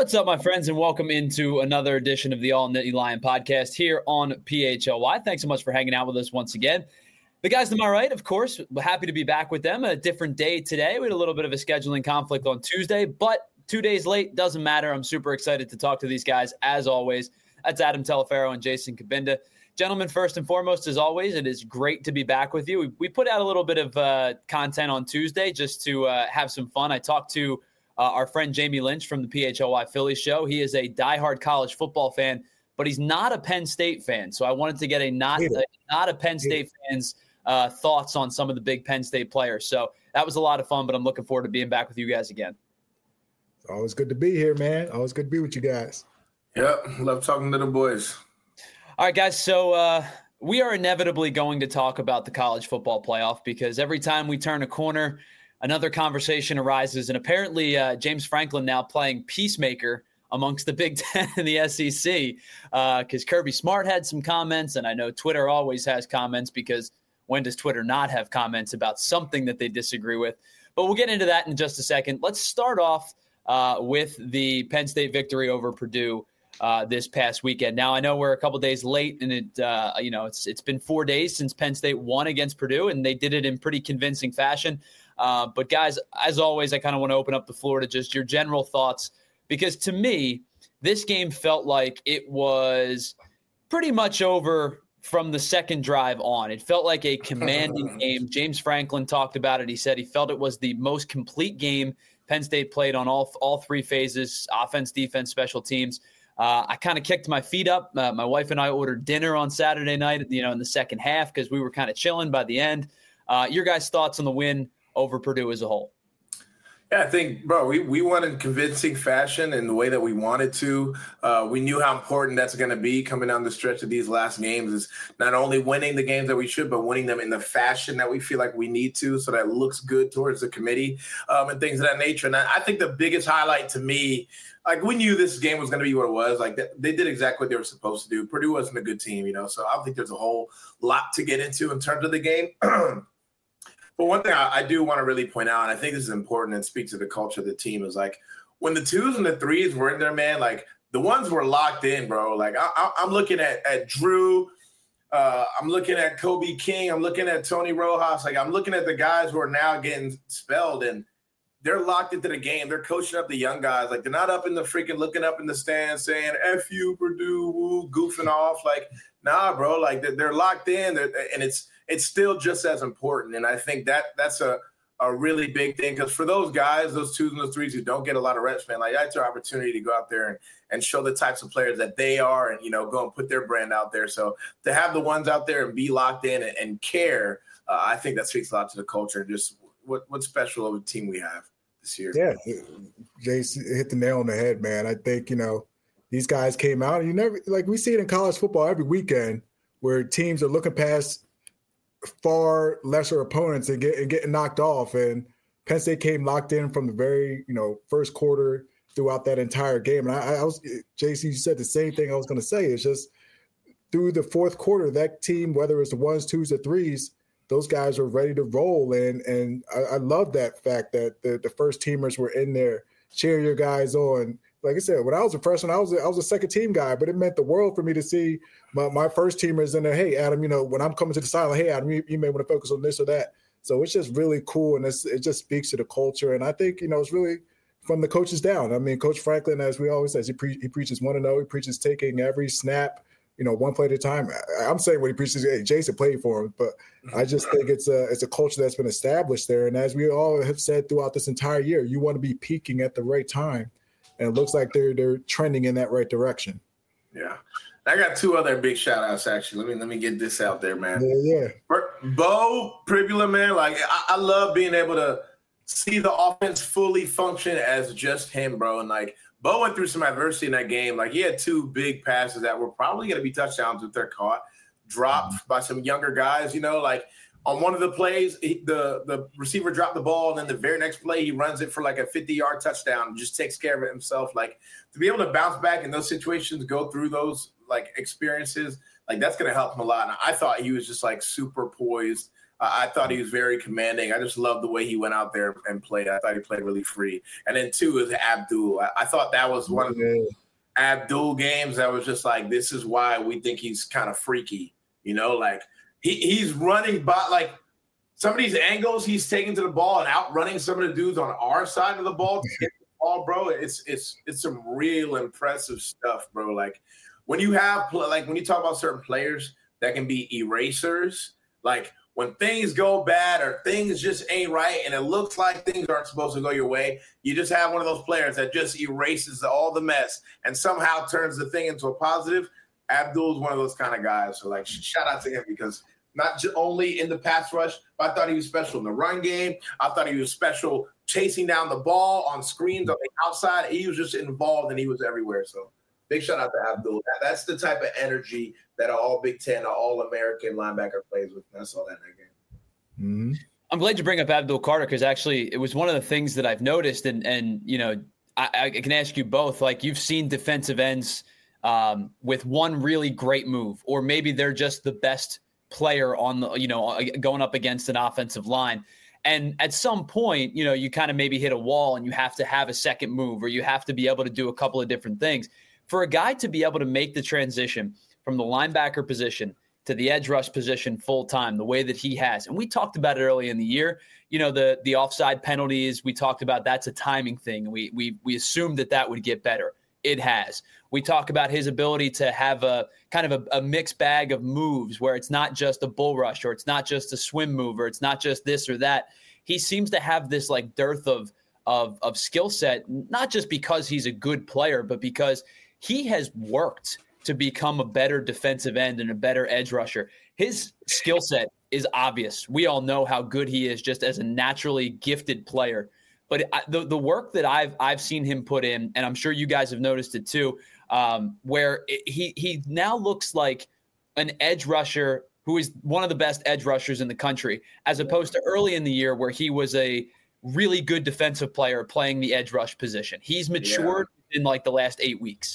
What's up, my friends, and welcome into another edition of the All Nittany Lion podcast here on PHLY. Thanks so much for hanging out with us once again. The guys to my right, of course, we're happy to be back with them. A different day today. We had a little bit of a scheduling conflict on Tuesday, but 2 days late, doesn't matter. I'm super excited to talk to these guys, as always. That's Adam Telefaro and Jason Cabinda. Gentlemen, first and foremost, as always, it is great to be back with you. We put out a little bit of content on Tuesday just to have some fun. I talked to our friend Jamie Lynch from the PHLY Philly show. He is a diehard college football fan, but he's not a Penn State fan. So I wanted to get a not a Penn State fan's thoughts on some of the big Penn State players. So that was a lot of fun, but I'm looking forward to being back with you guys again. It's always good to be here, man. Always good to be with you guys. Yep, love talking to the boys. All right, guys, so we are inevitably going to talk about the college football playoff because every time we turn a corner, another conversation arises, and apparently James Franklin now playing peacemaker amongst the Big Ten and the SEC because Kirby Smart had some comments, and I know Twitter always has comments because when does Twitter not have comments about something that they disagree with? But we'll get into that in just a second. Let's start off with the Penn State victory over Purdue this past weekend. Now, I know we're a couple days late, and it's been 4 days since Penn State won against Purdue, and they did it in pretty convincing fashion. But guys, as always, I kind of want to open up the floor to just your general thoughts, because to me, this game felt like it was pretty much over from the second drive on. It felt like a commanding game. James Franklin talked about it. He said he felt it was the most complete game Penn State played on all three phases: offense, defense, special teams. I kind of kicked my feet up. My wife and I ordered dinner on Saturday night, in the second half because we were kind of chilling by the end. Your guys' thoughts on the win over Purdue as a whole? Yeah, I think, bro, we won in convincing fashion in the way that we wanted to. We knew how important that's going to be coming down the stretch of these last games, is not only winning the games that we should, but winning them in the fashion that we feel like we need to, so that looks good towards the committee and things of that nature. And I think the biggest highlight to me, like, we knew this game was going to be what it was. Like, they did exactly what they were supposed to do. Purdue wasn't a good team, so I don't think there's a whole lot to get into in terms of the game. But one thing I do want to really point out, and I think this is important and speaks to the culture of the team, is like when the twos and the threes were in there, man, like the ones were locked in, bro. Like I'm looking at Drew, I'm looking at Kobe King, I'm looking at Tony Rojas. Like, I'm looking at the guys who are now getting spelled, and they're locked into the game. They're coaching up the young guys. Like, they're not up in the freaking looking up in the stands saying F you, Purdue, woo, goofing off. Like, nah, bro. Like, they're locked in, and it's still just as important. And I think that's a really big thing, because for those guys, those twos and those threes who don't get a lot of reps, man, like, that's their opportunity to go out there and show the types of players that they are, and, go and put their brand out there. So to have the ones out there and be locked in and care, I think that speaks a lot to the culture and just what's special of a team we have this year. Yeah, Jason hit the nail on the head, man. I think, these guys came out, and we see it in college football every weekend where teams are looking past far lesser opponents and getting knocked off. And Penn State came locked in from the very, first quarter throughout that entire game. And I was, JC, you said the same thing I was going to say. It's just through the fourth quarter, that team, whether it's the ones, twos, or threes, those guys were ready to roll. And I love that fact that the first teamers were in there cheering your guys on. Like I said, when I was a freshman, I was a second team guy, but it meant the world for me to see my first teamers in there. Hey, Adam, when I'm coming to the sideline, hey, Adam, you may want to focus on this or that. So it's just really cool, and it just speaks to the culture. And I think, it's really from the coaches down. I mean, Coach Franklin, as we always say, he preaches 1-0. He preaches taking every snap, one play at a time. I'm saying what he preaches. Hey, Jason played for him, but I just think it's a culture that's been established there. And as we all have said throughout this entire year, you want to be peaking at the right time. And it looks like they're trending in that right direction. Yeah. I got two other big shout outs, actually. Let me get this out there, man. Yeah. Beau Pribula, man. Like, I love being able to see the offense fully function as just him, bro. And like, Beau went through some adversity in that game. Like, he had two big passes that were probably going to be touchdowns if they're caught, dropped by some younger guys, like, on one of the plays, the receiver dropped the ball, and then the very next play, he runs it for like a 50-yard touchdown and just takes care of it himself. Like, to be able to bounce back in those situations, go through those like experiences, like that's going to help him a lot. And I thought he was just like super poised. I thought he was very commanding. I just love the way he went out there and played. I thought he played really free. And then 2 is Abdul. I thought that was one of the Abdul games that was just like, this is why we think he's kind of freaky. You know, like he's running by, like some of these angles he's taking to the ball and outrunning some of the dudes on our side of the ball to get the ball, bro. It's some real impressive stuff, bro. Like when you have, like when you talk about certain players that can be erasers, like when things go bad or things just ain't right and it looks like things aren't supposed to go your way, you just have one of those players that just erases all the mess and somehow turns the thing into a positive. Abdul's one of those kind of guys. So, like, shout out to him because not only in the pass rush, but I thought he was special in the run game. I thought he was special chasing down the ball on screens on the outside. He was just involved and he was everywhere. So, big shout out to Abdul. That's the type of energy that an all Big Ten, an all-American linebacker plays with. And I saw that in that game. Mm-hmm. I'm glad you bring up Abdul Carter because actually it was one of the things that I've noticed. And you know, I can ask you both. Like you've seen defensive ends with one really great move, or maybe they're just the best player on the, you know, going up against an offensive line. And at some point, you know, you kind of maybe hit a wall and you have to have a second move or you have to be able to do a couple of different things. For a guy to be able to make the transition from the linebacker position to the edge rush position full time, the way that he has. And we talked about it early in the year, you know, the offside penalties, we talked about that's a timing thing. We assumed that would get better. It has. We talk about his ability to have a kind of a mixed bag of moves where it's not just a bull rush or it's not just a swim move or it's not just this or that. He seems to have this like dearth of skill set, not just because he's a good player, but because he has worked to become a better defensive end and a better edge rusher. His skill set is obvious. We all know how good he is just as a naturally gifted player. But the work that I've seen him put in, and I'm sure you guys have noticed it too, where he now looks like an edge rusher who is one of the best edge rushers in the country, as opposed to early in the year where he was a really good defensive player playing the edge rush position. He's matured in like the last 8 weeks.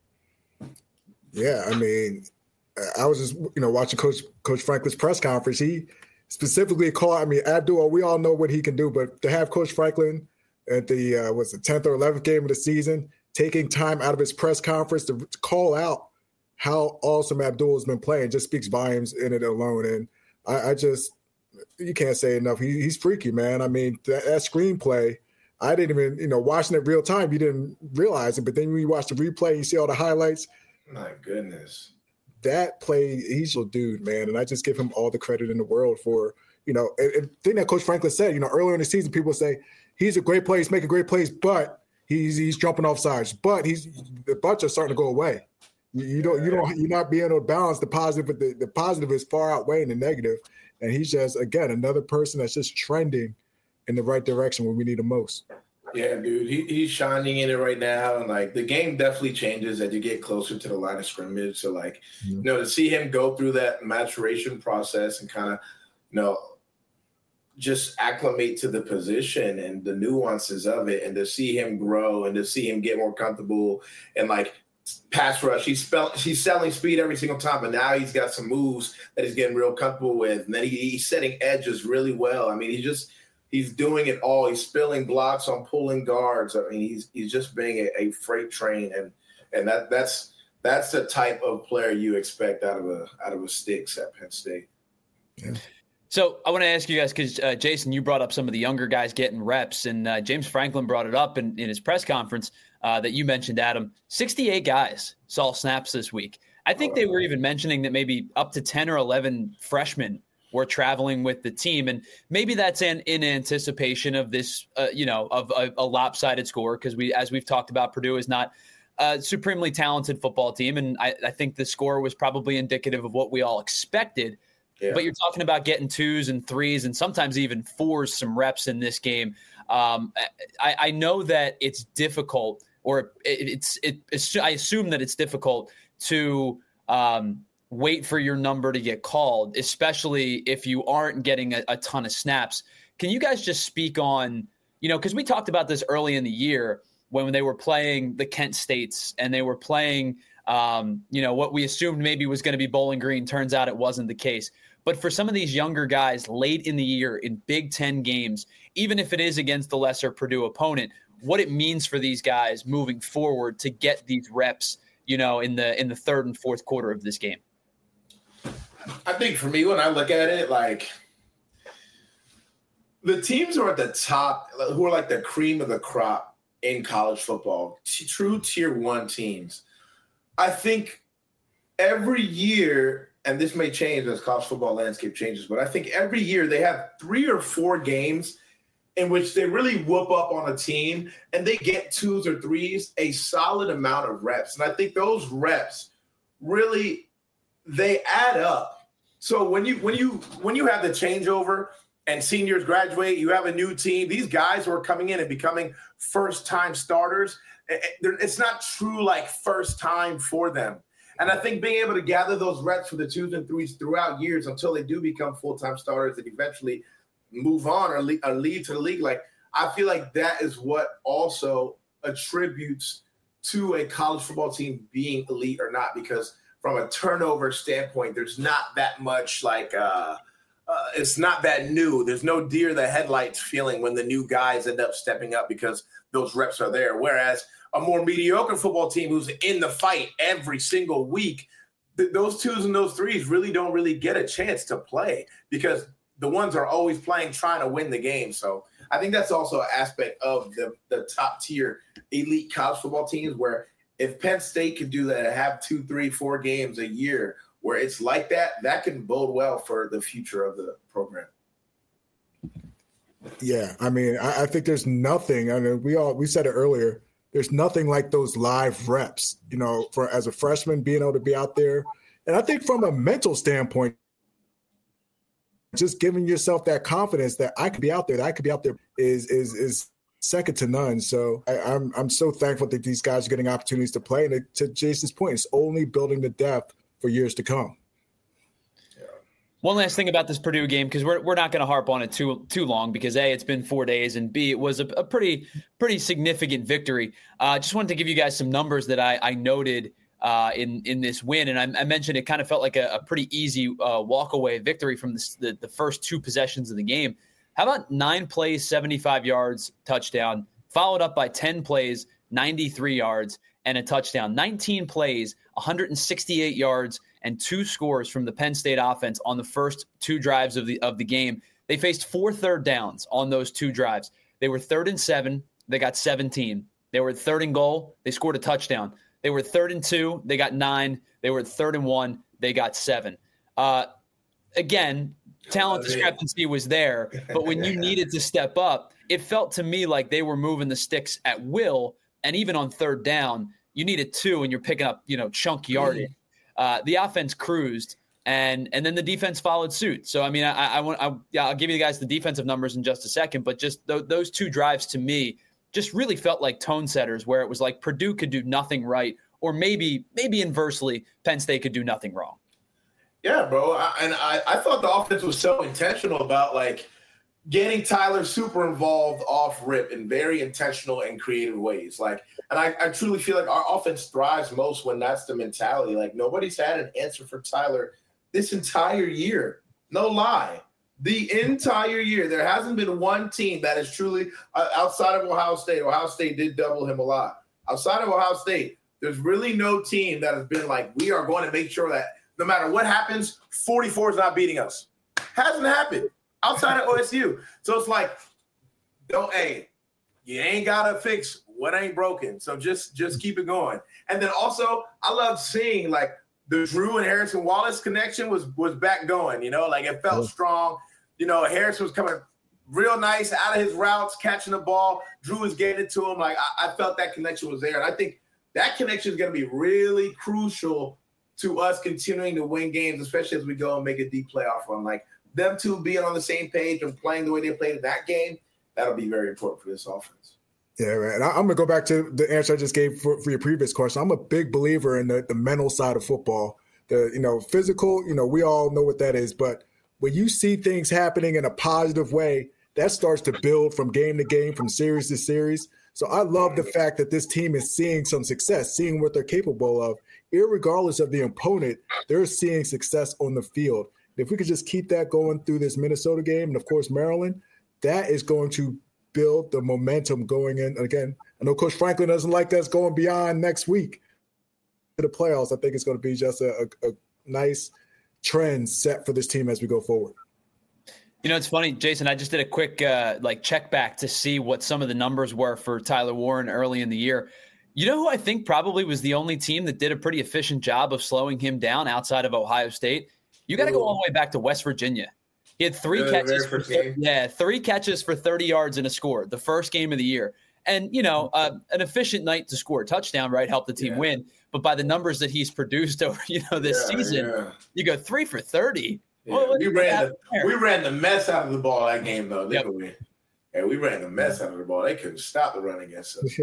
Yeah, I mean, I was just, you know, watching Coach Franklin's press conference. He specifically called, I mean, Abdul, we all know what he can do, but to have Coach Franklin at the, 10th or 11th game of the season, taking time out of his press conference to call out how awesome Abdul has been playing just speaks volumes in it alone. And I just, you can't say enough. He's freaky, man. I mean, that screenplay, I didn't even, you know, watching it real time, you didn't realize it. But then when you watch the replay, you see all the highlights. My goodness. That play, he's a dude, man. And I just give him all the credit in the world for, you know, and thing that Coach Franklin said, you know, earlier in the season, people say he's a great player, he's making great plays, but he's jumping off sides. But the butts are starting to go away. You're not being able to balance the positive, but the positive is far outweighing the negative. And he's just, again, another person that's just trending in the right direction when we need him most. Yeah, dude, he's shining in it right now. And, like, the game definitely changes as you get closer to the line of scrimmage. So, like, you know, to see him go through that maturation process and kind of, you know, just acclimate to the position and the nuances of it and to see him grow and to see him get more comfortable and, like, pass rush. He's selling speed every single time, but now he's got some moves that he's getting real comfortable with. And then he's setting edges really well. I mean, he's doing it all. He's spilling blocks on pulling guards. I mean, he's just being a freight train, and that's the type of player you expect out of a Sticks at Penn State. Yeah. So I want to ask you guys, because Jason, you brought up some of the younger guys getting reps, and James Franklin brought it up in his press conference that you mentioned, Adam. 68 guys saw snaps this week. I think they were even mentioning that maybe up to 10 or 11 freshmen were traveling with the team, and maybe that's in anticipation of this, of a lopsided score, because as we've talked about, Purdue is not a supremely talented football team, and I think the score was probably indicative of what we all expected. Yeah. But you're talking about getting 2s and 3s and sometimes even 4s some reps in this game. I know that it's difficult, or I assume that it's difficult to wait for your number to get called, especially if you aren't getting a ton of snaps. Can you guys just speak on, because we talked about this early in the year when they were playing the Kent States and they were playing What we assumed maybe was going to be Bowling Green, turns out it wasn't the case. But for some of these younger guys late in the year in Big Ten games, even if it is against the lesser Purdue opponent, what it means for these guys moving forward to get these reps, in the third and fourth quarter of this game. I think for me, when I look at it, like the teams who are at the top, who are like the cream of the crop in college football, true tier 1 teams, I think every year, and this may change as college football landscape changes, but I think every year they have 3 or 4 games in which they really whoop up on a team and they get 2s or 3s, a solid amount of reps. And I think those reps really, they add up. So when you have the changeover and seniors graduate, you have a new team, these guys who are coming in and becoming first-time starters, it's not true like first time for them. And I think being able to gather those reps for the 2s and 3s throughout years until they do become full-time starters and eventually move on or lead to the league, like I feel like that is what also attributes to a college football team being elite or not, because from a turnover standpoint, there's not that much it's not that new. There's no deer in the headlights feeling when the new guys end up stepping up because those reps are there. Whereas a more mediocre football team who's in the fight every single week, those 2s and those 3s really don't really get a chance to play because the ones are always playing, trying to win the game. So I think that's also an aspect of the top tier elite college football teams, where if Penn State could do that and have 2, 3, 4 games a year where it's like that, that can bode well for the future of the program. Yeah, I mean, I think there's nothing. I mean, we said it earlier. There's nothing like those live reps, for as a freshman being able to be out there. And I think from a mental standpoint, just giving yourself that confidence that I could be out there, is second to none. So I'm so thankful that these guys are getting opportunities to play. And to Jason's point, it's only building the depth for years to come. One last thing about this Purdue game, because we're not going to harp on it too long, because A, it's been 4 days, and B, it was a pretty significant victory. Just wanted to give you guys some numbers that I noted in this win, and I mentioned it kind of felt like a pretty easy walk-away victory from the first 2 possessions of the game. How about 9 plays, 75 yards, touchdown, followed up by 10 plays, 93 yards, and a touchdown. 19 plays, 168 yards, and 2 scores from the Penn State offense on the first 2 drives of the game. They faced 4 third downs on those 2 drives. They were 3rd and 7. They got 17. They were 3rd and goal. They scored a touchdown. They were 3rd and 2. They got 9. They were 3rd and 1. They got 7. Again, talent discrepancy was there, but when you needed to step up, it felt to me like they were moving the sticks at will. And even on 3rd down, you needed 2 and you're picking up, chunk yardage. The offense cruised, and then the defense followed suit. So, I mean, I'll give you guys the defensive numbers in just a second, but just those 2 drives to me just really felt like tone setters, where it was like Purdue could do nothing right, or maybe inversely, Penn State could do nothing wrong. Yeah, bro. I thought the offense was so intentional about getting Tyler super involved off rip in very intentional and creative ways. And I truly feel like our offense thrives most when that's the mentality. Nobody's had an answer for Tyler this entire year. No lie. The entire year. There hasn't been one team that is truly outside of Ohio State. Ohio State did double him a lot. Outside of Ohio State, there's really no team that has been we are going to make sure that no matter what happens, 44 is not beating us. Hasn't happened. Outside of OSU. So it's you ain't got to fix what ain't broken. So just keep it going. And then also, I love seeing the Drew and Harrison Wallace connection was back going, it felt strong. Harrison was coming real nice out of his routes, catching the ball. Drew was getting it to him. I felt that connection was there. And I think that connection is going to be really crucial to us continuing to win games, especially as we go and make a deep playoff run. Them 2 being on the same page and playing the way they played in that game, that'll be very important for this offense. Yeah, man. I'm going to go back to the answer I just gave for your previous question. I'm a big believer in the mental side of football. The physical, we all know what that is. But when you see things happening in a positive way, that starts to build from game to game, from series to series. So I love the fact that this team is seeing some success, seeing what they're capable of. Irregardless of the opponent, they're seeing success on the field. If we could just keep that going through this Minnesota game and, of course, Maryland, that is going to build the momentum going in. Again, I know Coach Franklin doesn't like us going beyond next week to the playoffs. I think it's going to be just a nice trend set for this team as we go forward. You know, it's funny, Jason, I just did a quick check back to see what some of the numbers were for Tyler Warren early in the year. You know who I think probably was the only team that did a pretty efficient job of slowing him down outside of Ohio State? You got to go all the way back to West Virginia. He had three catches for 30 yards and a score, the first game of the year. And, you know, an efficient night to score a touchdown, right, helped the team win. But by the numbers that he's produced over, this season, you go 3 for 30. Yeah. Well, we ran the mess out of the ball that game, though, didn't we? Yeah, we ran the mess out of the ball. They couldn't stop the run against us.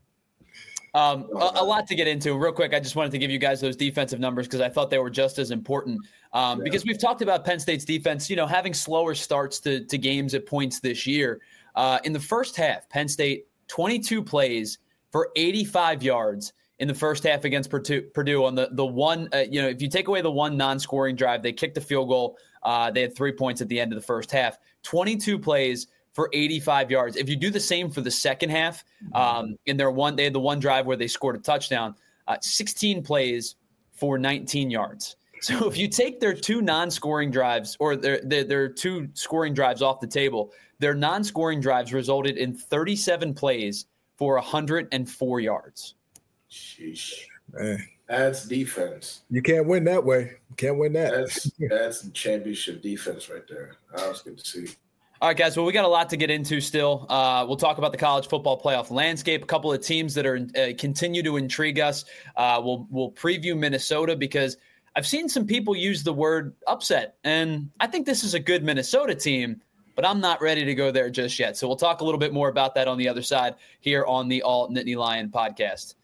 A lot to get into. Real quick, I just wanted to give you guys those defensive numbers because I thought they were just as important. Because we've talked about Penn State's defense, having slower starts to games at points this year. In the first half, Penn State, 22 plays for 85 yards in the first half against Purdue on the one, if you take away the one non-scoring drive, they kicked the field goal. They had 3 points at the end of the first half. 22 plays for 85 yards. If you do the same for the second half, they had the one drive where they scored a touchdown, 16 plays for 19 yards. So if you take their two non-scoring drives or their two scoring drives off the table, their non-scoring drives resulted in 37 plays for 104 yards. Sheesh. Man. That's defense. You can't win that way. You can't win that. That's championship defense right there. That was good to see. All right, guys. Well, we got a lot to get into still. We'll talk about the college football playoff landscape, a couple of teams that are continue to intrigue us. We'll preview Minnesota because I've seen some people use the word upset, and I think this is a good Minnesota team, but I'm not ready to go there just yet. So we'll talk a little bit more about that on the other side here on the All Nittany Lion podcast.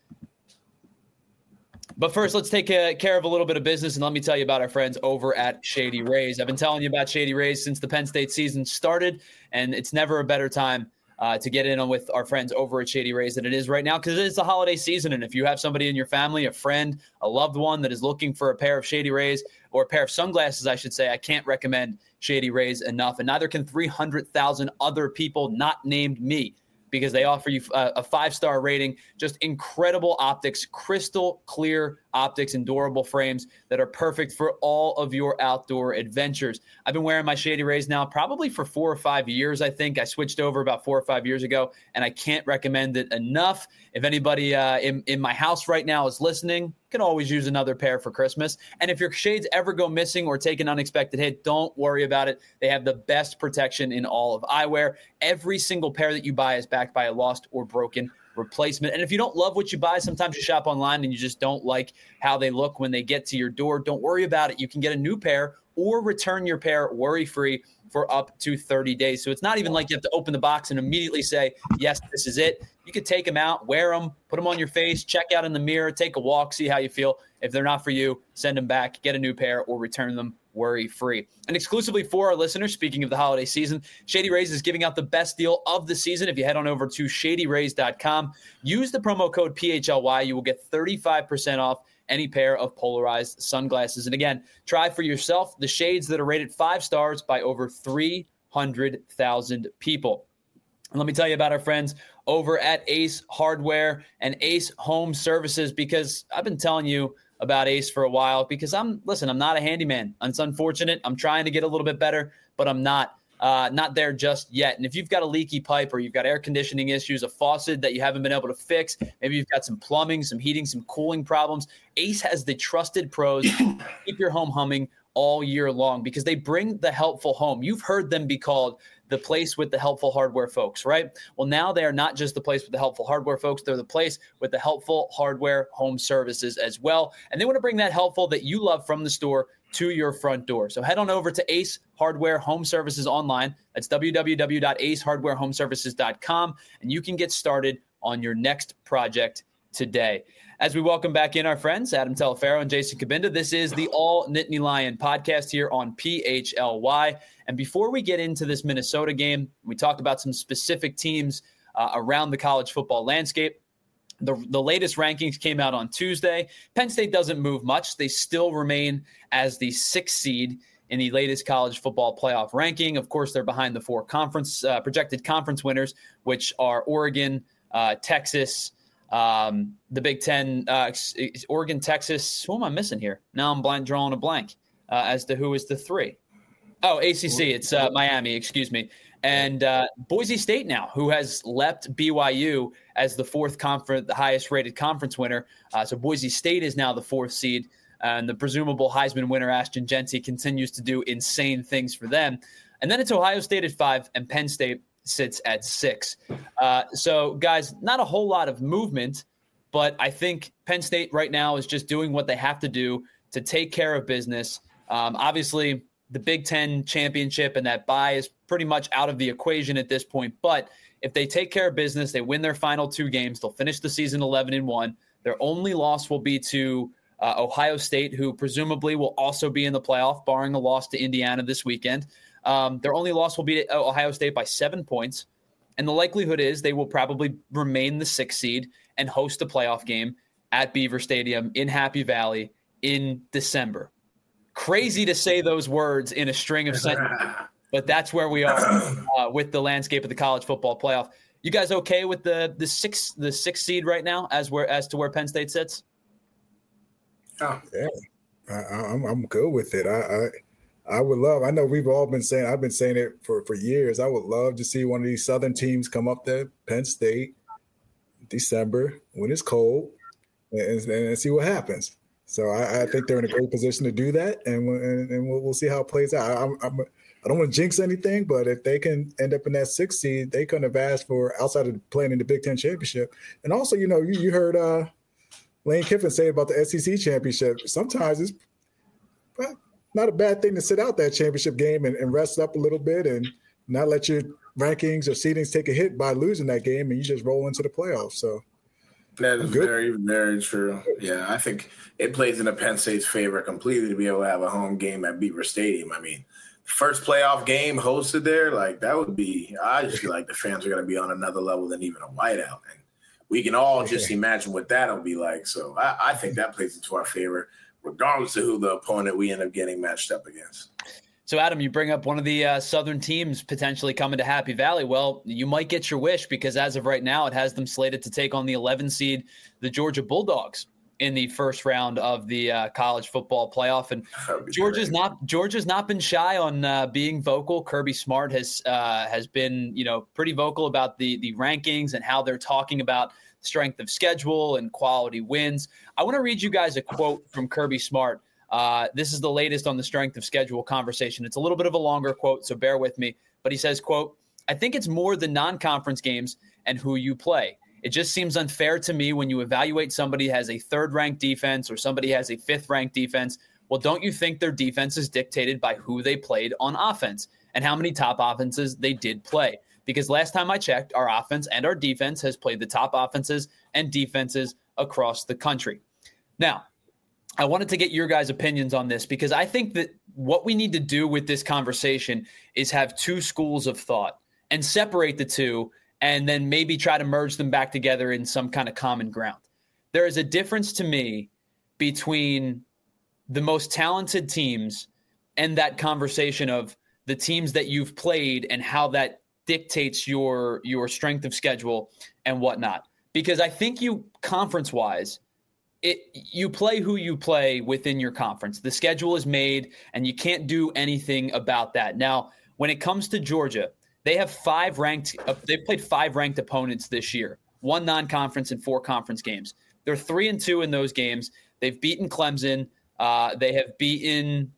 But first, let's take care of a little bit of business, and let me tell you about our friends over at Shady Rays. I've been telling you about Shady Rays since the Penn State season started, and it's never a better time to get in on with our friends over at Shady Rays than it is right now because it is the holiday season, and if you have somebody in your family, a friend, a loved one that is looking for a pair of Shady Rays or a pair of sunglasses, I should say, I can't recommend Shady Rays enough, and neither can 300,000 other people not named me, because they offer you a 5-star rating, just incredible optics, crystal clear optics and durable frames that are perfect for all of your outdoor adventures. I've been wearing my Shady Rays now probably for 4 or 5 years, I think. I switched over about 4 or 5 years ago, and I can't recommend it enough. If anybody in my house right now is listening, can always use another pair for Christmas. And if your shades ever go missing or take an unexpected hit, don't worry about it. They have the best protection in all of eyewear. Every single pair that you buy is backed by a lost or broken replacement. And if you don't love what you buy, sometimes you shop online and you just don't like how they look when they get to your door. Don't worry about it. You can get a new pair or return your pair worry-free for up to 30 days. So it's not even like you have to open the box and immediately say, yes, this is it. You could take them out, wear them, put them on your face, check out in the mirror, take a walk, see how you feel. If they're not for you, send them back, get a new pair, or return them worry-free. And exclusively for our listeners, speaking of the holiday season, Shady Rays is giving out the best deal of the season. If you head on over to shadyrays.com, use the promo code PHLY, you will get 35% off any pair of polarized sunglasses. And again, try for yourself the shades that are rated 5 stars by over 300,000 people. And let me tell you about our friends over at Ace Hardware and Ace Home Services, because I've been telling you about Ace for a while because I'm not a handyman. It's unfortunate. I'm trying to get a little bit better, but I'm not there just yet. And if you've got a leaky pipe or you've got air conditioning issues, a faucet that you haven't been able to fix, maybe you've got some plumbing, some heating, some cooling problems, Ace has the trusted pros to keep your home humming all year long because they bring the helpful home. You've heard them be called the place with the helpful hardware folks, right? Well, now they are not just the place with the helpful hardware folks. They're the place with the helpful hardware home services as well. And they want to bring that helpful that you love from the store to your front door. So head on over to Ace Hardware Home Services online. That's www.acehardwarehomeservices.com. And you can get started on your next project today. As we welcome back in our friends, Adam Telefaro and Jason Cabinda, this is the All Nittany Lion podcast here on PHLY. And before we get into this Minnesota game, we talked about some specific teams around the college football landscape. The latest rankings came out on Tuesday. Penn State doesn't move much. They still remain as the 6th seed in the latest college football playoff ranking. Of course, they're behind the 4 projected conference winners, which are Oregon, Texas, the Big Ten, Oregon, Texas. Who am I missing here? Now I'm drawing a blank as to who is the 3. Oh, ACC. It's Miami, excuse me. And Boise State now, who has leapt BYU as the 4th conference, the highest rated conference winner. So Boise State is now the 4th seed. And the presumable Heisman winner, Ashton Jeanty, continues to do insane things for them. And then it's Ohio State at 5 and Penn State sits at 6. So, guys, not a whole lot of movement, but I think Penn State right now is just doing what they have to do to take care of business. Obviously, the Big Ten championship and that bye is pretty much out of the equation at this point. But if they take care of business, they win their final 2 games, they'll finish the season 11-1. Their only loss will be to Ohio State, who presumably will also be in the playoff, barring a loss to Indiana this weekend. Their only loss will be to Ohio State by 7 points. And the likelihood is they will probably remain the 6th seed and host a playoff game at Beaver Stadium in Happy Valley in December. Crazy to say those words in a string of sentences, but that's where we are with the landscape of the college football playoff. You guys okay with the 6th seed right now as to where Penn State sits? Oh. Yeah, I'm good with it. I would love. I know we've all been saying. I've been saying it for years. I would love to see one of these Southern teams come up there, Penn State, December when it's cold, and see what happens. So I think they're in a great position to do that, and we'll see how it plays out. I don't want to jinx anything, but if they can end up in that 6th seed, they couldn't have asked for outside of playing in the Big Ten championship. And also, you heard Lane Kiffin say about the SEC championship. Sometimes it's not a bad thing to sit out that championship game and rest up a little bit and not let your rankings or seedings take a hit by losing that game, and you just roll into the playoffs. So that is very, very true. Yeah, I think it plays into Penn State's favor completely to be able to have a home game at Beaver Stadium. I mean, first playoff game hosted there, like that would be – I just feel like the fans are going to be on another level than even a whiteout. And we can all just imagine what that'll be like. So I think that plays into our favor, regardless of who the opponent we end up getting matched up against. So, Adam, you bring up one of the Southern teams potentially coming to Happy Valley. Well, you might get your wish because as of right now, it has them slated to take on the 11 seed, the Georgia Bulldogs, in the first round of the college football playoff. And Georgia's not been shy on being vocal. Kirby Smart has been pretty vocal about the rankings and how they're talking about strength of schedule and quality wins. I want to read you guys a quote from Kirby Smart. This is the latest on the strength of schedule conversation. It's a little bit of a longer quote, so bear with me. But he says, quote, "I think it's more the non-conference games and who you play. It just seems unfair to me when you evaluate somebody has a 3rd-ranked defense or somebody has a 5th-ranked defense. Well, don't you think their defense is dictated by who they played on offense and how many top offenses they did play? Because last time I checked, our offense and our defense has played the top offenses and defenses across the country." Now, I wanted to get your guys' opinions on this because I think that what we need to do with this conversation is have 2 schools of thought and separate the 2 and then maybe try to merge them back together in some kind of common ground. There is a difference to me between the most talented teams and that conversation of the teams that you've played and how that dictates your strength of schedule and whatnot. Because I think you conference-wise, you play who you play within your conference. The schedule is made, and you can't do anything about that. Now, when it comes to Georgia, they've played 5 ranked opponents this year, 1 non-conference and 4 conference games. They're 3-2 in those games. They've beaten Clemson. They have beaten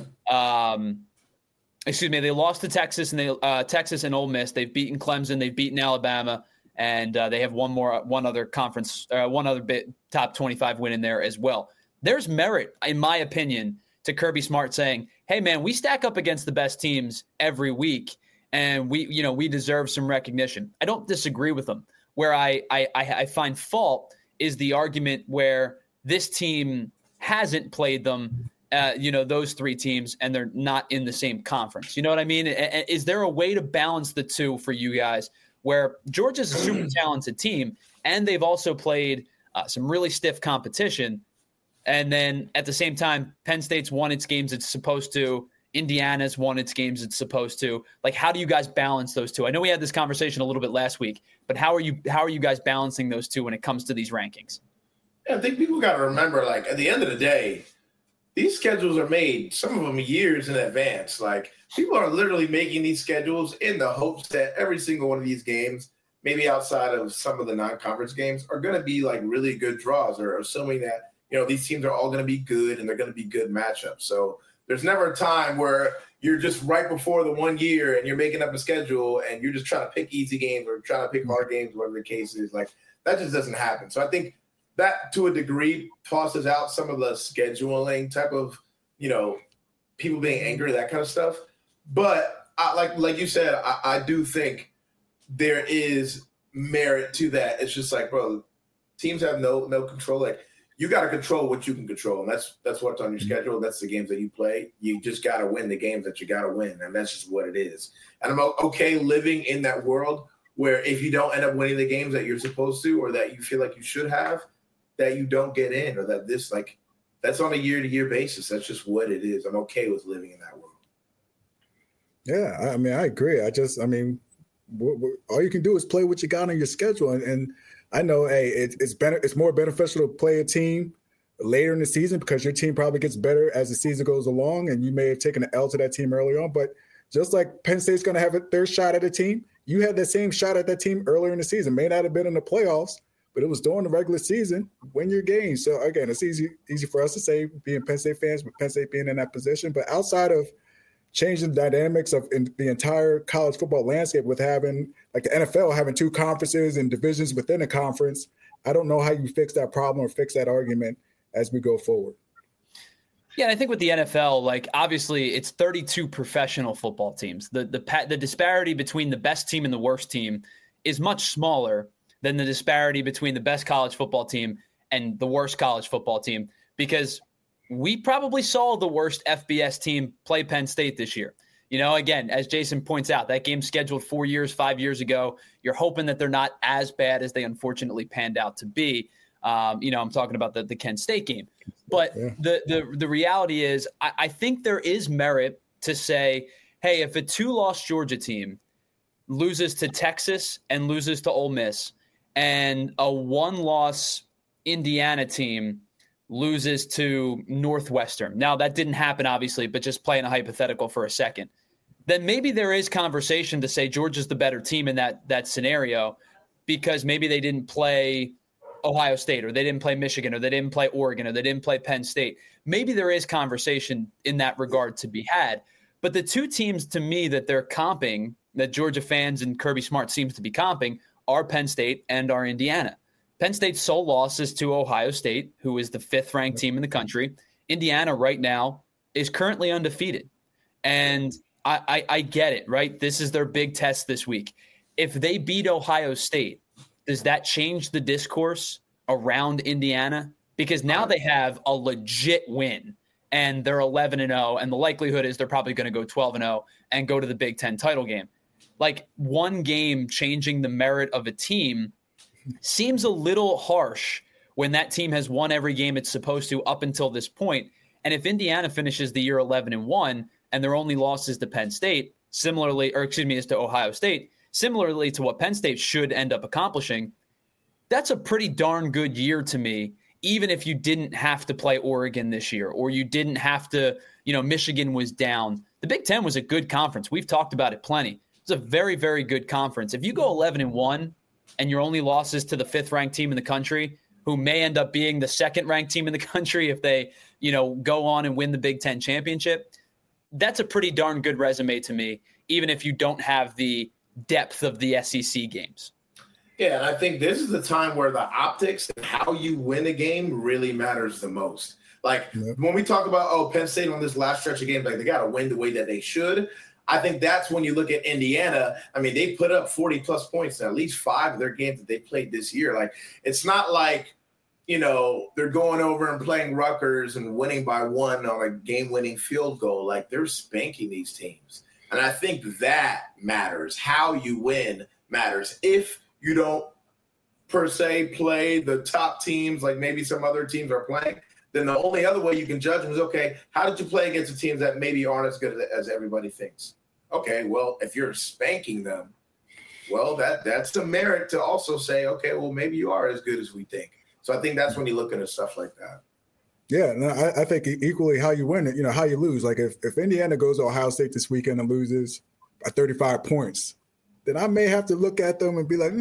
they lost to Texas and Ole Miss. They've beaten Clemson. They've beaten Alabama. And they have one other top 25 win in there as well. There's merit, in my opinion, to Kirby Smart saying, "Hey, man, we stack up against the best teams every week, and we deserve some recognition." I don't disagree with him. Where I find fault is the argument where this team hasn't played them, those three teams, and they're not in the same conference. You know what I mean? Is there a way to balance the two for you guys where Georgia's a super talented team and they've also played some really stiff competition, and then at the same time, Penn State's won its games it's supposed to, Indiana's won its games it's supposed to. Like, how do you guys balance those two? I know we had this conversation a little bit last week, but how are you guys balancing those two when it comes to these rankings? Yeah, I think people got to remember, like, at the end of the day, these schedules are made, some of them years in advance. Like, people are literally making these schedules in the hopes that every single one of these games, maybe outside of some of the non-conference games, are going to be like really good draws, or assuming that, these teams are all going to be good and they're going to be good matchups. So there's never a time where you're just right before the 1 year and you're making up a schedule and you're just trying to pick easy games or trying to pick hard games, whatever the case is. Like, that just doesn't happen. So I think that, to a degree, tosses out some of the scheduling type of, people being angry, that kind of stuff. But like you said, I do think there is merit to that. It's just like, bro, teams have no control. Like, you got to control what you can control, and that's what's on your schedule. That's the games that you play. You just got to win the games that you got to win, and that's just what it is. And I'm okay living in that world where if you don't end up winning the games that you're supposed to, or that you feel like you should have, that you don't get in, or that that's on a year-to-year basis. That's just what it is. I'm okay with living in that world. Yeah, I mean, I agree. All you can do is play what you got on your schedule, and I know, hey, it's more beneficial to play a team later in the season because your team probably gets better as the season goes along, and you may have taken an L to that team early on. But just like Penn State's going to have their shot at a team, you had that same shot at that team earlier in the season. May not have been in the playoffs, but it was during the regular season. Win your game. So again, it's easy for us to say, being Penn State fans, but Penn State being in that position. But outside of changing the dynamics of the entire college football landscape, with having, like, the NFL having two conferences and divisions within a conference, I don't know how you fix that problem or fix that argument as we go forward. Yeah, and I think with the NFL, like, obviously it's 32 professional football teams. The disparity between the best team and the worst team is much smaller than the disparity between the best college football team and the worst college football team, because we probably saw the worst FBS team play Penn State this year. Again, as Jason points out, that game's scheduled 5 years ago. You're hoping that they're not as bad as they unfortunately panned out to be. I'm talking about the Kent State game. But yeah, the reality is, I think there is merit to say, hey, if a 2-loss Georgia team loses to Texas and loses to Ole Miss, and a 1-loss Indiana team loses to Northwestern. Now, that didn't happen, obviously, but just playing a hypothetical for a second. Then maybe there is conversation to say Georgia's the better team in that scenario, because maybe they didn't play Ohio State, or they didn't play Michigan, or they didn't play Oregon, or they didn't play Penn State. Maybe there is conversation in that regard to be had. But the two teams, to me, that they're comping, that Georgia fans and Kirby Smart seems to be comping, are Penn State and are Indiana. Penn State's sole loss is to Ohio State, who is the 5th-ranked team in the country. Indiana right now is currently undefeated. And I get it, right? This is their big test this week. If they beat Ohio State, does that change the discourse around Indiana? Because now they have a legit win, and they're 11-0, and the likelihood is they're probably going to go 12-0 and go to the Big Ten title game. Like, one game changing the merit of a team seems a little harsh when that team has won every game it's supposed to up until this point. And if Indiana finishes the year 11-1 and their only loss is to Penn State, is to Ohio State, similarly to what Penn State should end up accomplishing, that's a pretty darn good year to me, even if you didn't have to play Oregon this year, or you didn't have to, Michigan was down. The Big Ten was a good conference. We've talked about it plenty. It's a very, very good conference. If you go 11-1 and your only loss is to the 5th-ranked team in the country, who may end up being the 2nd-ranked team in the country if they, go on and win the Big Ten championship, that's a pretty darn good resume to me, even if you don't have the depth of the SEC games. Yeah, and I think this is the time where the optics and how you win a game really matters the most. Like, when we talk about, Penn State on this last stretch of games, like, they got to win the way that they should. I think that's when you look at Indiana. I mean, they put up 40-plus points in at least 5 of their games that they played this year. Like, it's not like they're going over and playing Rutgers and winning by 1 on a game-winning field goal. Like, they're spanking these teams. And I think that matters. How you win matters. If you don't, per se, play the top teams like maybe some other teams are playing, then the only other way you can judge them is, okay, how did you play against the teams that maybe aren't as good as everybody thinks? Okay, well, if you're spanking them, well, that's the merit to also say, okay, well, maybe you are as good as we think. So I think that's when you look at stuff like that. Yeah, no, I think equally how you win it, how you lose. Like if Indiana goes to Ohio State this weekend and loses by 35 points, then I may have to look at them and be like,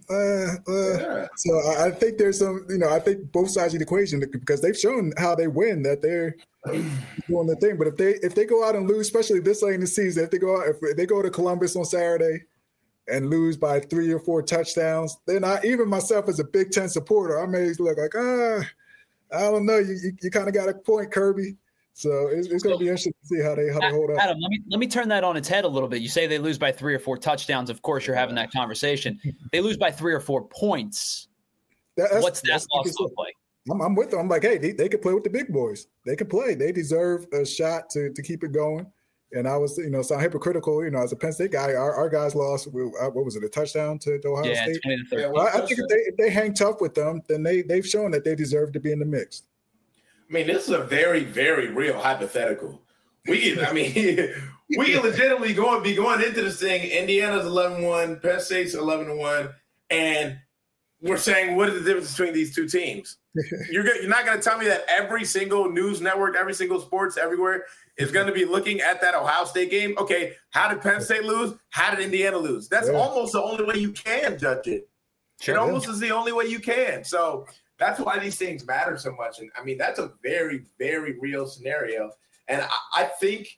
yeah. So I think there's some, I think both sides of the equation, because they've shown how they win, that they're doing the thing. But if they go out and lose, especially this late in the season, if they go to Columbus on Saturday and lose by 3 or 4 touchdowns, then even myself as a Big Ten supporter, I may look like, I don't know. You kind of got a point, Kirby. So it's going to be interesting to see how they hold up. Adam, let me turn that on its head a little bit. You say they lose by 3 or 4 touchdowns. Of course, you're having that conversation. They lose by 3 or 4 points. What's that loss look like? I'm with them. I'm like, hey, they can play with the big boys. They can play. They deserve a shot to keep it going. And I was, sound hypocritical, as a Penn State guy, our guys lost, what was it, a touchdown to Ohio State? Yeah, well, I think if they hang tough with them, then they've shown that they deserve to be in the mix. I mean, this is a very, very real hypothetical. We can legitimately be going into this thing. Indiana's 11-1, Penn State's 11-1, and we're saying, what is the difference between these two teams? You're not going to tell me that every single news network, every single sports everywhere is going to be looking at that Ohio State game. Okay, how did Penn State lose? How did Indiana lose? That's almost the only way you can judge it. Sure, it almost is the only way you can. So that's why these things matter so much. And, I mean, that's a very, very real scenario. And I think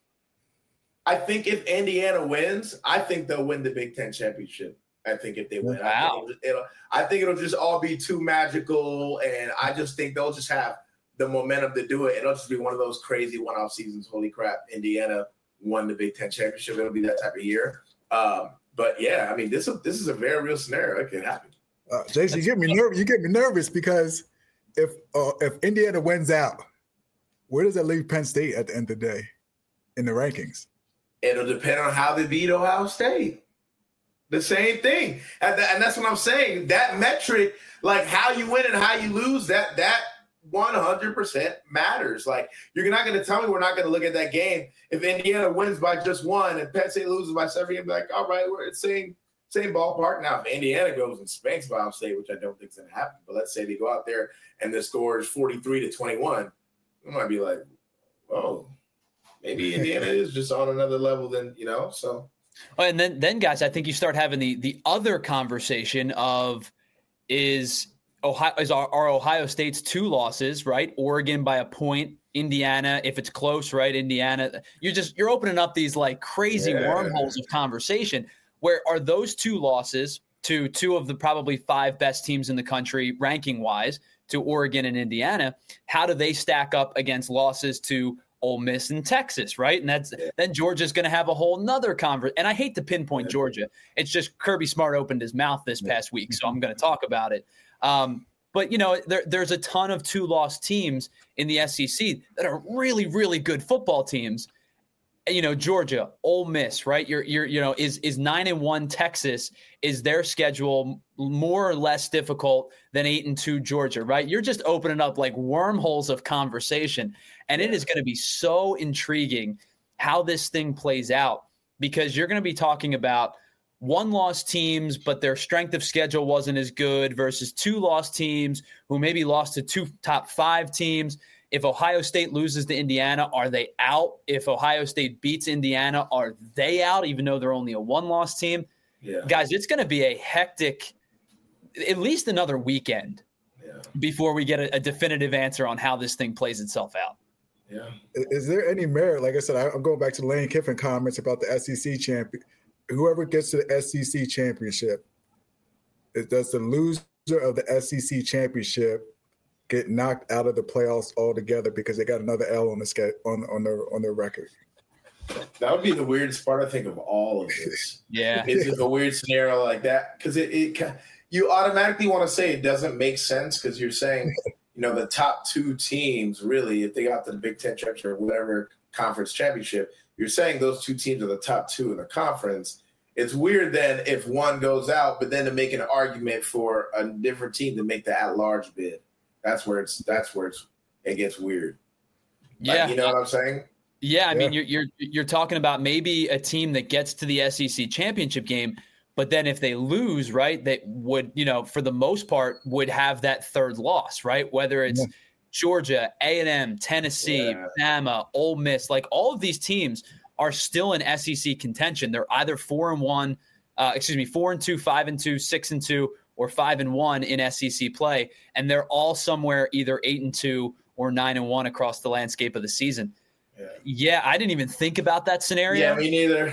if Indiana wins, I think they'll win the Big Ten championship. I think if they win, wow. I think it'll just all be too magical, and I just think they'll just have the momentum to do it. It'll just be one of those crazy one-off seasons. Holy crap, Indiana won the Big Ten championship. It'll be that type of year. But yeah, I mean, this is a very real scenario. It can happen. Jason, you get me nervous because if Indiana wins out, where does that leave Penn State at the end of the day in the rankings? It'll depend on how they beat Ohio State. The same thing. And that's what I'm saying. That metric, like how you win and how you lose, that 100% matters. Like, you're not going to tell me we're not going to look at that game. If Indiana wins by just 1 and Penn State loses by 7, you'll be like, all right, we're at the same ballpark. Now, if Indiana goes and spanks Ohio State, which I don't think is going to happen, but let's say they go out there and the score is 43-21, we might be like, oh, maybe Indiana is just on another level than, so. Oh, and then guys, I think you start having the other conversation of are Ohio State's 2 losses, right? Oregon by a point, Indiana, if it's close, right? Indiana, you're opening up these like crazy wormholes of conversation. Where are those 2 losses to 2 of the probably 5 best teams in the country ranking wise, to Oregon and Indiana? How do they stack up against losses to Ole Miss and Texas, right? And then Georgia's going to have a whole nother conversation. And I hate to pinpoint Georgia. It's just Kirby Smart opened his mouth this past week, so I'm going to talk about it. But, there's a ton of 2-loss teams in the SEC that are really, really good football teams. Georgia, Ole Miss, right? Is 9-1 Texas, is their schedule more or less difficult than 8-2 Georgia, right? You're just opening up like wormholes of conversation, and it is going to be so intriguing how this thing plays out, because you're going to be talking about 1-loss teams, but their strength of schedule wasn't as good versus 2-loss teams who maybe lost to 2 top 5 teams. If Ohio State loses to Indiana, are they out? If Ohio State beats Indiana, are they out, even though they're only a 1-loss team? Yeah. Guys, it's going to be a hectic, at least another weekend before we get a definitive answer on how this thing plays itself out. Yeah. Is there any merit? Like I said, I'm going back to Lane Kiffin comments about the SEC champion. Whoever gets to the SEC championship, does the loser of the SEC championship get knocked out of the playoffs altogether because they got another L on the on their record? That would be the weirdest part, I think, of all of this. Yeah, it's just a weird scenario like that, because you automatically want to say it doesn't make sense because you're saying, the top two teams really, if they got to the Big Ten championship or whatever conference championship, you're saying those two teams are the top two in the conference. It's weird then if one goes out, but then to make an argument for a different team to make the at-large bid. That's where it gets weird. Yeah, you know what I'm saying? Yeah, I mean, you're talking about maybe a team that gets to the SEC championship game, but then if they lose, right, they would, for the most part, would have that third loss, right? Whether it's Georgia, A&M, Tennessee, Bama, Ole Miss, like all of these teams are still in SEC contention. They're either 4-2, 5-2, 6-2, or 5-1 in SEC play, and they're all somewhere either 8-2 or 9-1 across the landscape of the season. Yeah, I didn't even think about that scenario. Yeah, me neither.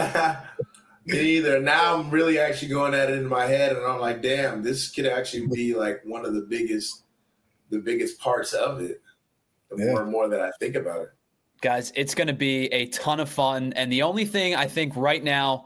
Me either. Now I'm really actually going at it in my head, and I'm like, damn, this could actually be like one of the biggest parts of it. The more and more that I think about it. Guys, it's going to be a ton of fun. And the only thing I think right now,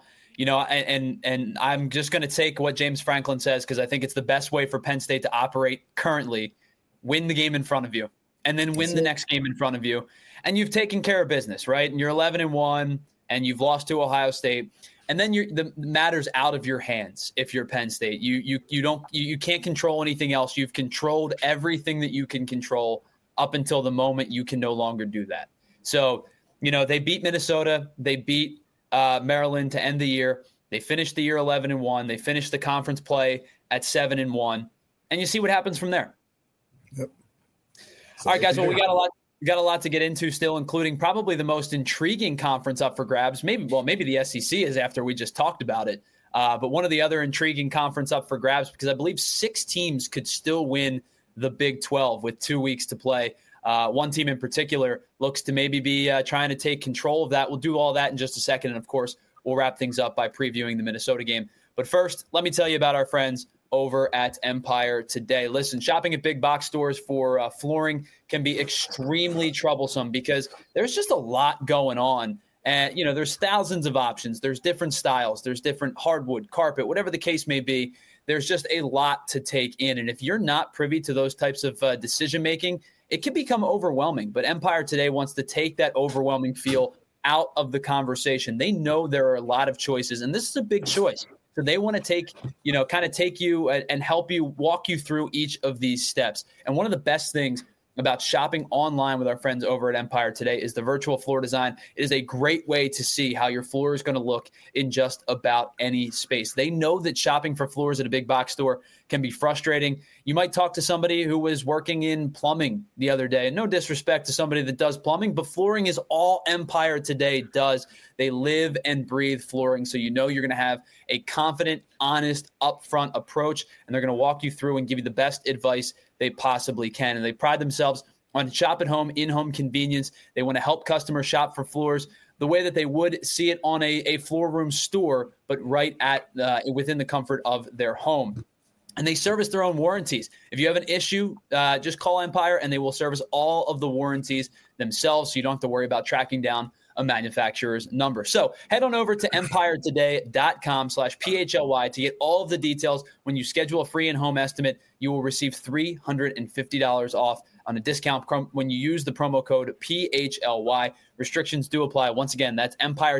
and I'm just going to take what James Franklin says because I think it's the best way for Penn State to operate currently. Win the game in front of you, and then win the next game in front of you. And you've taken care of business, right? And you're 11-1, and you've lost to Ohio State. And then the matter's out of your hands if you're Penn State. You can't control anything else. You've controlled everything that you can control up until the moment you can no longer do that. So, they beat Minnesota. They beat Maryland to end the year. They finished the year 11-1. They finished the conference play at 7-1. And you see what happens from there. Yep. All right, guys. Well, we got a lot to get into still, including probably the most intriguing conference up for grabs. Maybe the SEC is after we just talked about it. But one of the other intriguing conference up for grabs, because I believe 6 teams could still win the Big 12 with 2 weeks to play. One team in particular looks to maybe be trying to take control of that. We'll do all that in just a second. And, of course, we'll wrap things up by previewing the Minnesota game. But first, let me tell you about our friends over at Empire Today. Listen, shopping at big box stores for flooring can be extremely troublesome because there's just a lot going on. And, there's thousands of options. There's different styles. There's different hardwood, carpet, whatever the case may be. There's just a lot to take in. And if you're not privy to those types of decision-making, it can become overwhelming. But Empire Today wants to take that overwhelming feel out of the conversation. They know there are a lot of choices, and this is a big choice. So they want to take you and help you, walk you through each of these steps. And one of the best things about shopping online with our friends over at Empire Today is the virtual floor design. It is a great way to see how your floor is going to look in just about any space. They know that shopping for floors at a big box store can be frustrating. You might talk to somebody who was working in plumbing the other day. And no disrespect to somebody that does plumbing, but flooring is all Empire Today does. They live and breathe flooring. So you're going to have a confident, honest, upfront approach, and they're going to walk you through and give you the best advice they possibly can. And they pride themselves on shop at home, in-home convenience. They want to help customers shop for floors the way that they would see it on a floor room store, but right at within the comfort of their home. And they service their own warranties. If you have an issue, just call Empire, and they will service all of the warranties themselves, so you don't have to worry about tracking down a manufacturer's number. So head on over to empiretoday.com/PHLY to get all of the details. When you schedule a free in-home estimate, you will receive $350 off on a discount when you use the promo code PHLY. Restrictions do apply. Once again, that's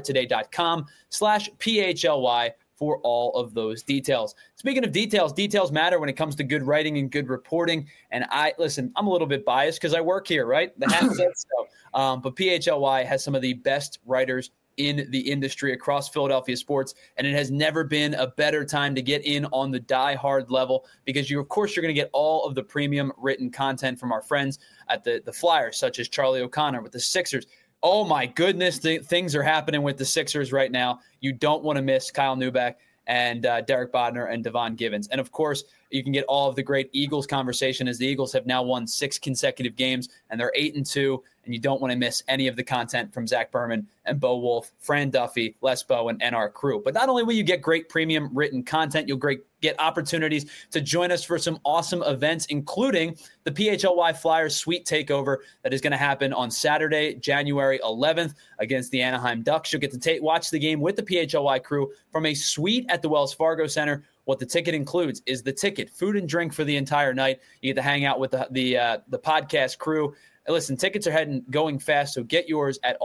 empiretoday.com/PHLY for all of those details. Speaking of details, details matter when it comes to good writing and good reporting. And I'm a little bit biased because I work here, right? The hat says so. But PHLY has some of the best writers in the industry across Philadelphia sports, and it has never been a better time to get in on the die-hard level because you're going to get all of the premium written content from our friends at the Flyers, such as Charlie O'Connor with the Sixers. Oh, my goodness, things are happening with the Sixers right now. You don't want to miss Kyle Neubeck and Derek Bodner and Devon Givens. And, of course, you can get all of the great Eagles conversation as the Eagles have now won 6 consecutive games, and they're 8-2. and you don't want to miss any of the content from Zach Berman and Bo Wolf, Fran Duffy, Les Bow, and our crew. But not only will you get great premium written content, you'll get opportunities to join us for some awesome events, including the PHLY Flyers Suite Takeover that is going to happen on Saturday, January 11th against the Anaheim Ducks. You'll get to watch the game with the PHLY crew from a suite at the Wells Fargo Center. What the ticket includes is the ticket, food and drink for the entire night. You get to hang out with the podcast crew. Listen, tickets are going fast, so get yours at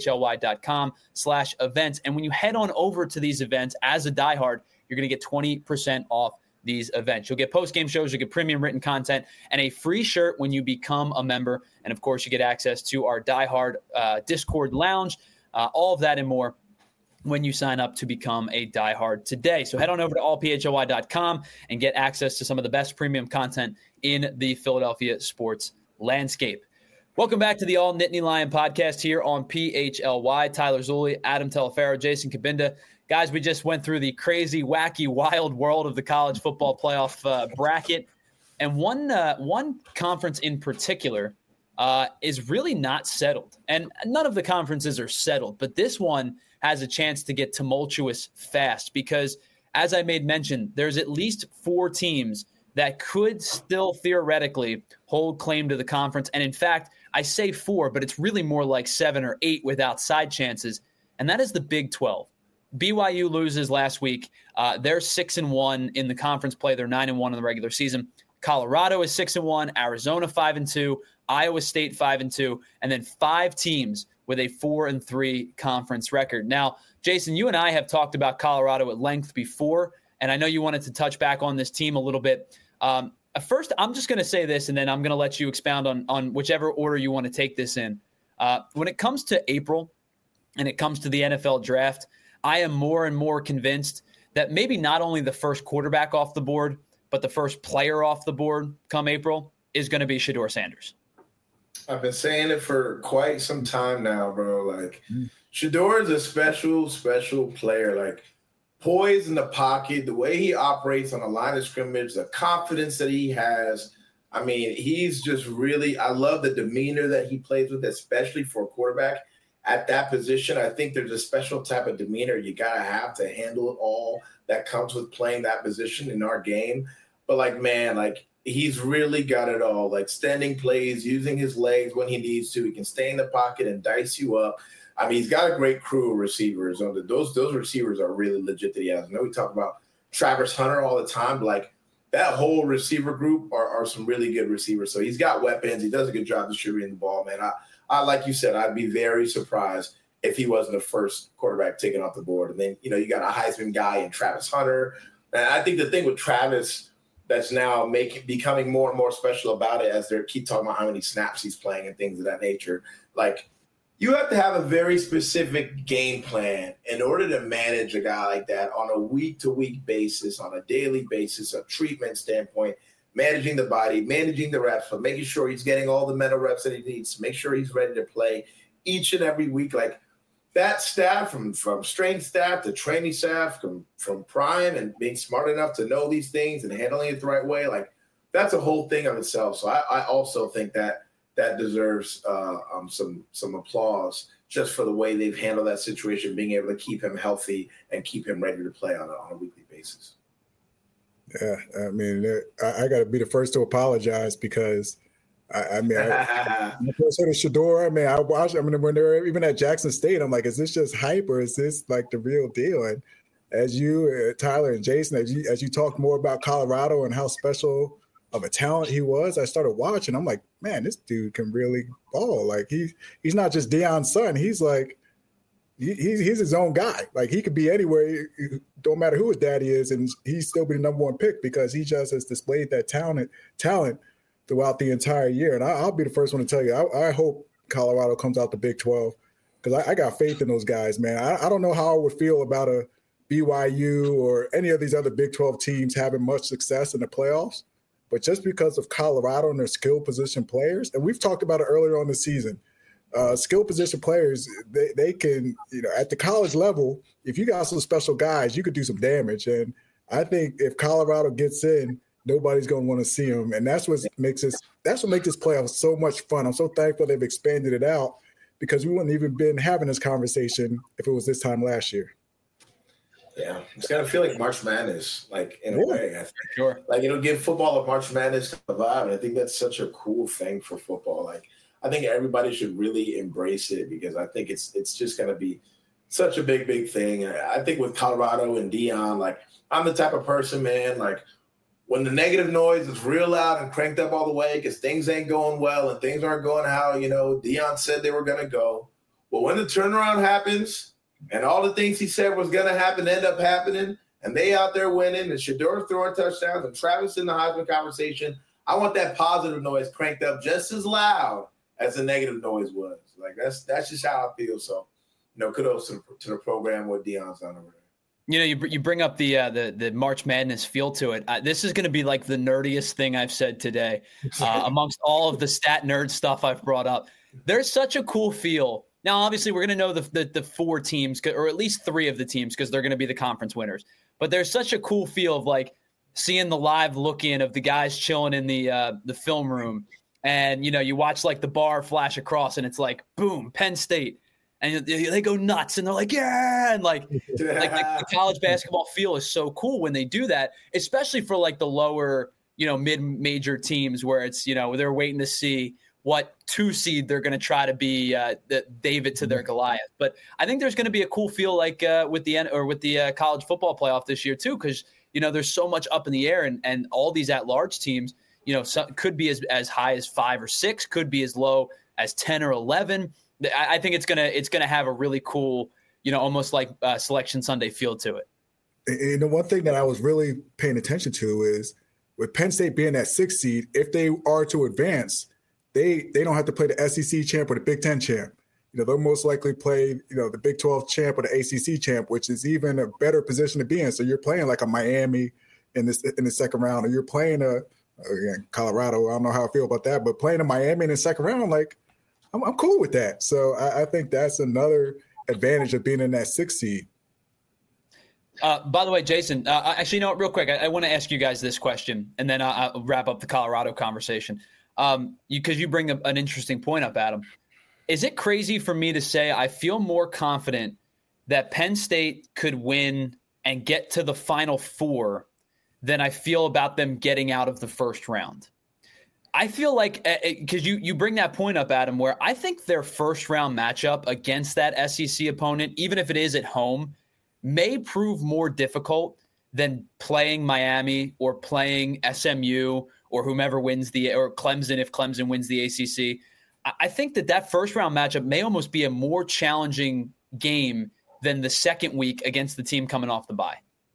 allphly.com/events. And when you head on over to these events as a diehard, you're going to get 20% off these events. You'll get post-game shows, you'll get premium written content, and a free shirt when you become a member. And, of course, you get access to our diehard Discord lounge, all of that and more when you sign up to become a diehard today. So head on over to allphly.com and get access to some of the best premium content in the Philadelphia sports landscape. Welcome back to the All Nittany Lion podcast here on PHLY. Tyler Zulli, Adam Telefaro, Jason Kabinda. Guys, we just went through the crazy, wacky, wild world of the college football playoff bracket. And one conference in particular is really not settled. And none of the conferences are settled, but this one has a chance to get tumultuous fast because, as I made mention, there's at least 4 teams that could still theoretically hold claim to the conference. And in fact, I say 4, but it's really more like 7 or 8 without side chances. And that is the Big 12. BYU loses last week. They're 6-1 in the conference play. They're 9-1 in the regular season. Colorado is 6-1, Arizona 5-2, Iowa State 5-2, and then 5 teams with a 4-3 conference record. Now, Jason, you and I have talked about Colorado at length before, and I know you wanted to touch back on this team a little bit. First, I'm just going to say this, and then I'm going to let you expound on whichever order you want to take this in. When it comes to April and it comes to the NFL draft, I am more and more convinced that maybe not only the first quarterback off the board, but the first player off the board come April is going to be Shedeur Sanders. I've been saying it for quite some time now, bro. Like, Shedeur is a special, special player. Like, poise in the pocket, the way he operates on the line of scrimmage, the confidence that he has. I mean, he's just really – I love the demeanor that he plays with, especially for a quarterback at that position. I think there's a special type of demeanor you got to have to handle it all that comes with playing that position in our game. But, like, man, like, he's really got it all, like standing plays, using his legs when he needs to. He can stay in the pocket and dice you up. I mean, he's got a great crew of receivers. Those receivers are really legit that he has. I know we talk about Travis Hunter all the time, but like that whole receiver group are some really good receivers. So he's got weapons. He does a good job distributing the ball, man. I like you said, I'd be very surprised if he wasn't the first quarterback taken off the board. And then, you got a Heisman guy in Travis Hunter. And I think the thing with Travis that's now becoming more and more special about it as they keep talking about how many snaps he's playing and things of that nature. Like, you have to have a very specific game plan in order to manage a guy like that on a week-to-week basis, on a daily basis, a treatment standpoint, managing the body, managing the reps, but making sure he's getting all the mental reps that he needs to make sure he's ready to play each and every week. Like, that staff, from strength staff to training staff, from prime and being smart enough to know these things and handling it the right way, like that's a whole thing of itself. So I also think that deserves some applause just for the way they've handled that situation, being able to keep him healthy and keep him ready to play on a weekly basis. Yeah, I mean, I got to be the first to apologize because I first heard of Shedeur. I watched. When they were even at Jackson State, I'm like, is this just hype or is this like the real deal? And as you, Tyler and Jason, as you talk more about Colorado and how special of a talent he was, I started watching. I'm like, man, this dude can really ball. Like he's not just Deion's son. He's like he's his own guy. Like he could be anywhere. Don't matter who his daddy is, and he's still be the number 1 pick because he just has displayed that talent throughout the entire year. And I'll be the first one to tell you, I hope Colorado comes out the Big 12 because I got faith in those guys, man. I don't know how I would feel about a BYU or any of these other Big 12 teams having much success in the playoffs, but just because of Colorado and their skill position players, and we've talked about it earlier on the season, skill position players, they can, at the college level, if you got some special guys, you could do some damage. And I think if Colorado gets in, nobody's going to want to see him. And that's what makes this playoff so much fun. I'm so thankful they've expanded it out because we wouldn't even been having this conversation if it was this time last year. Yeah, it's gonna feel like March Madness, like in a way. I think. Sure. Like it'll give football a March Madness vibe, and I think that's such a cool thing for football. Like I think everybody should really embrace it because I think it's just gonna be such a big thing. I think with Colorado and Deion, like I'm the type of person, man, like when the negative noise is real loud and cranked up all the way because things ain't going well and things aren't going how Deion said they were gonna go. Well, when the turnaround happens. And all the things he said was going to happen end up happening, and they out there winning, and Shedeur throwing touchdowns, and Travis in the Heisman conversation. I want that positive noise cranked up just as loud as the negative noise was. Like that's just how I feel. So, kudos to the program what Deion's done over there. You bring up the March Madness feel to it. This is going to be like the nerdiest thing I've said today, amongst all of the stat nerd stuff I've brought up. There's such a cool feel. Now, obviously, we're going to know the four teams, or at least three of the teams, because they're going to be the conference winners. But there's such a cool feel of like seeing the live look-in of the guys chilling in the film room, and you watch like the bar flash across, and it's like boom, Penn State, and they go nuts, and they're like yeah, and like the college basketball feel is so cool when they do that, especially for like the lower mid-major teams where it's they're waiting to see what 2 seed they're going to try to be the David to their Goliath. But I think there's going to be a cool feel like with the college football playoff this year too, because there's so much up in the air, and all these at-large teams, could be as high as 5 or 6, could be as low as 10 or 11. I think it's gonna have a really cool, almost like Selection Sunday feel to it. And the one thing that I was really paying attention to is with Penn State being that 6 seed, if they are to advance, they don't have to play the SEC champ or the Big Ten champ. They'll most likely play, the Big 12 champ or the ACC champ, which is even a better position to be in. So you're playing like a Miami in the second round, or you're playing Colorado. I don't know how I feel about that, but playing a Miami in the second round, like I'm cool with that. So I think that's another advantage of being in that 6 seed. By the way, Jason, actually, real quick, I want to ask you guys this question, and then I'll wrap up the Colorado conversation. Because you bring an interesting point up, Adam. Is it crazy for me to say I feel more confident that Penn State could win and get to the Final Four than I feel about them getting out of the first round? I feel like, because you bring that point up, Adam, where I think their first round matchup against that SEC opponent, even if it is at home, may prove more difficult than playing Miami or playing SMU or whomever wins or Clemson if Clemson wins the ACC. I think that first round matchup may almost be a more challenging game than the second week against the team coming off the bye.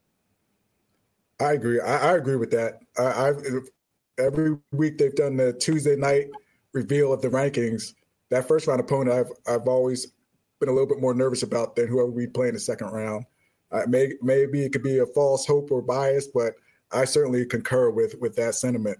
I agree. I agree with that. Every week they've done the Tuesday night reveal of the rankings. That first round opponent I've always been a little bit more nervous about than whoever we play in the second round. Maybe it could be a false hope or bias, but I certainly concur with that sentiment.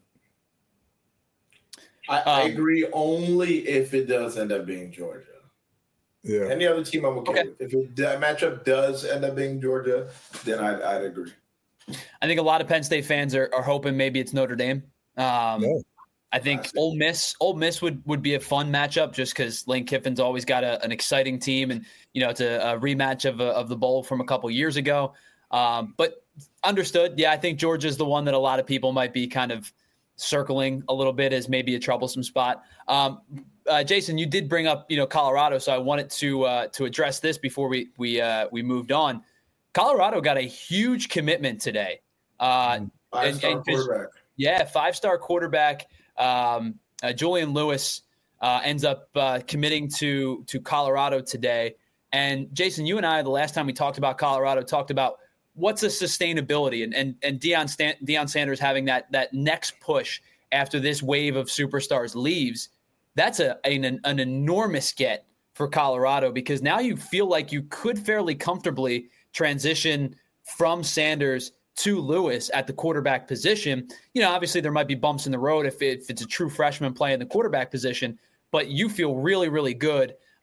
I agree only if it does end up being Georgia. Yeah. Any other team I'm okay with. If that matchup does end up being Georgia, then I'd agree. I think a lot of Penn State fans are hoping maybe it's Notre Dame. I think Ole Miss would be a fun matchup just because Lane Kiffin's always got an exciting team, and it's a rematch of the bowl from a couple years ago. But understood. Yeah, I think Georgia's the one that a lot of people might be kind of circling a little bit as maybe a troublesome spot. Jason, you did bring up Colorado, so I wanted to address this before we moved on. Colorado got a huge commitment today. Five-star quarterback. Yeah, 5-star quarterback. Julian Lewis ends up committing to Colorado today. And Jason, you and I, the last time we talked about Colorado, talked about what's a sustainability and Deion Sanders having that next push after this wave of superstars leaves. That's an enormous get for Colorado, because now you feel like you could fairly comfortably transition from Sanders to Lewis at the quarterback position. Obviously there might be bumps in the road if it's a true freshman playing the quarterback position, but you feel really, really good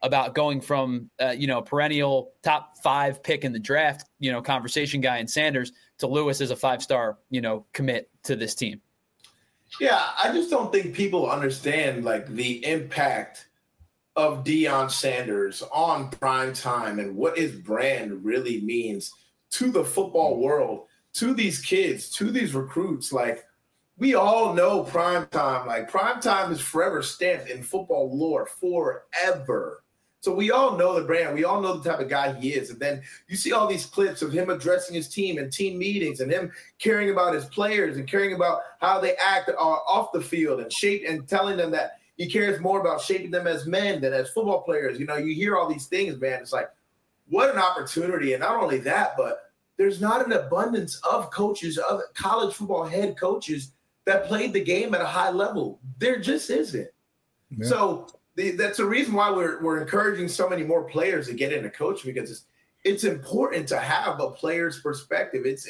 about going from, perennial top 5 pick in the draft, conversation guy in Sanders to Lewis as a 5-star, commit to this team. Yeah, I just don't think people understand like the impact of Deion Sanders on prime time and what his brand really means to the football world, to these kids, to these recruits. Like, we all know prime time. Like, prime time is forever stamped in football lore forever. So we all know the brand. We all know the type of guy he is. And then you see all these clips of him addressing his team in team meetings and him caring about his players and caring about how they act off the field and telling them that he cares more about shaping them as men than as football players. You hear all these things, man. It's like, what an opportunity. And not only that, but there's not an abundance of coaches, of college football head coaches that played the game at a high level. There just isn't. Yeah. So that's the reason why we're encouraging so many more players to get into coaching, because it's important to have a player's perspective. It's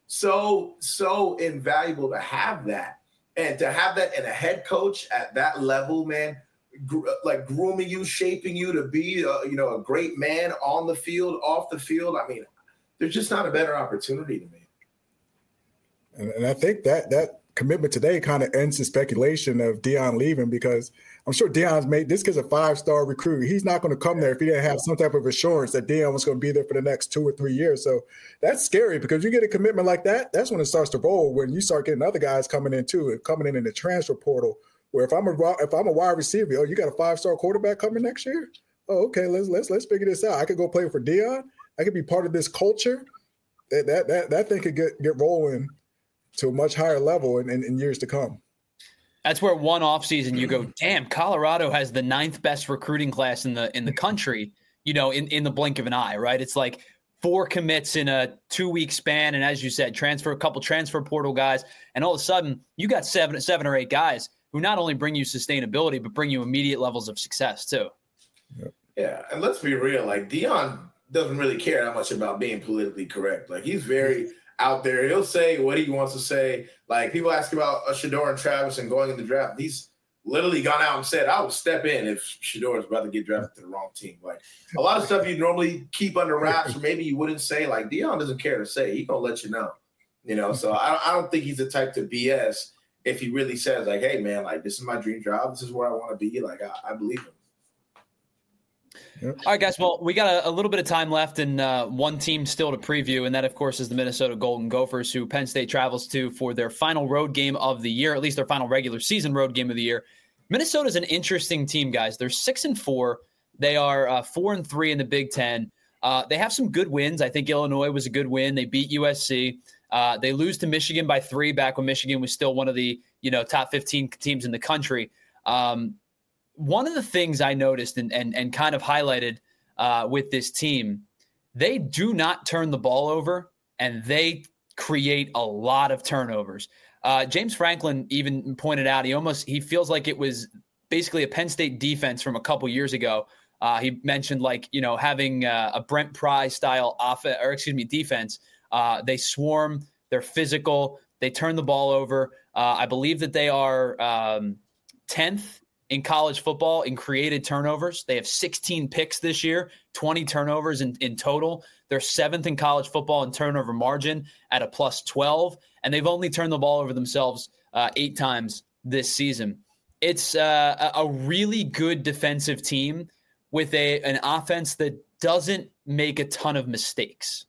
so invaluable to have that, and to have that in a head coach at that level, man, like grooming you, shaping you to be a great man on the field, off the field. I mean, there's just not a better opportunity to me. And I think that commitment today kind of ends the speculation of Deion leaving, because I'm sure Deion's made this kid's a 5-star recruit. He's not going to come there if he didn't have some type of assurance that Deion was going to be there for the next 2 or 3 years. So that's scary, because you get a commitment like that, that's when it starts to roll, when you start getting other guys coming in too, coming in the transfer portal, where if I'm a wide receiver, you got a 5-star quarterback coming next year? Oh, okay, let's figure this out. I could go play for Deion. I could be part of this culture. That thing could get rolling to a much higher level in years to come. That's where one offseason you go, damn, Colorado has the 9th best recruiting class in the country, in the blink of an eye, right? It's like 4 commits in a 2-week span. And as you said, a couple transfer portal guys. And all of a sudden you got seven or 8 guys who not only bring you sustainability, but bring you immediate levels of success too. Yeah. And let's be real. Like, Deion doesn't really care that much about being politically correct. Like, he's very out there. He'll say what he wants to say. Like, people ask about Shedeur and Travis and going in the draft. He's literally gone out and said, I will step in if Shedeur is about to get drafted to the wrong team. Like, a lot of stuff you normally keep under wraps, or maybe you wouldn't say. Like, Deion doesn't care to say. He's going to let you know. So I don't think he's the type to BS if he really says, like, hey, man, like, this is my dream job. This is where I want to be. Like, I believe him. All right, guys. Well, we got a little bit of time left and one team still to preview, and that, of course, is the Minnesota Golden Gophers, who Penn State travels to for their final road game of the year, at least their final regular season road game of the year. Minnesota's an interesting team, guys. They're 6-4. They are 4-3 in the Big Ten. They have some good wins. I think Illinois was a good win. They beat USC. They lose to Michigan by 3 back when Michigan was still one of the top 15 teams in the country. One of the things I noticed and kind of highlighted with this team, they do not turn the ball over, and they create a lot of turnovers. James Franklin even pointed out he feels like it was basically a Penn State defense from a couple years ago. He mentioned having a Brent Pry style defense. They swarm, they're physical, they turn the ball over. I believe that they are 10th in college football in created turnovers. They have 16 picks this year, 20 turnovers in total. They're 7th in college football in turnover margin at a +12, and they've only turned the ball over themselves 8 times this season. It's a really good defensive team with an offense that doesn't make a ton of mistakes.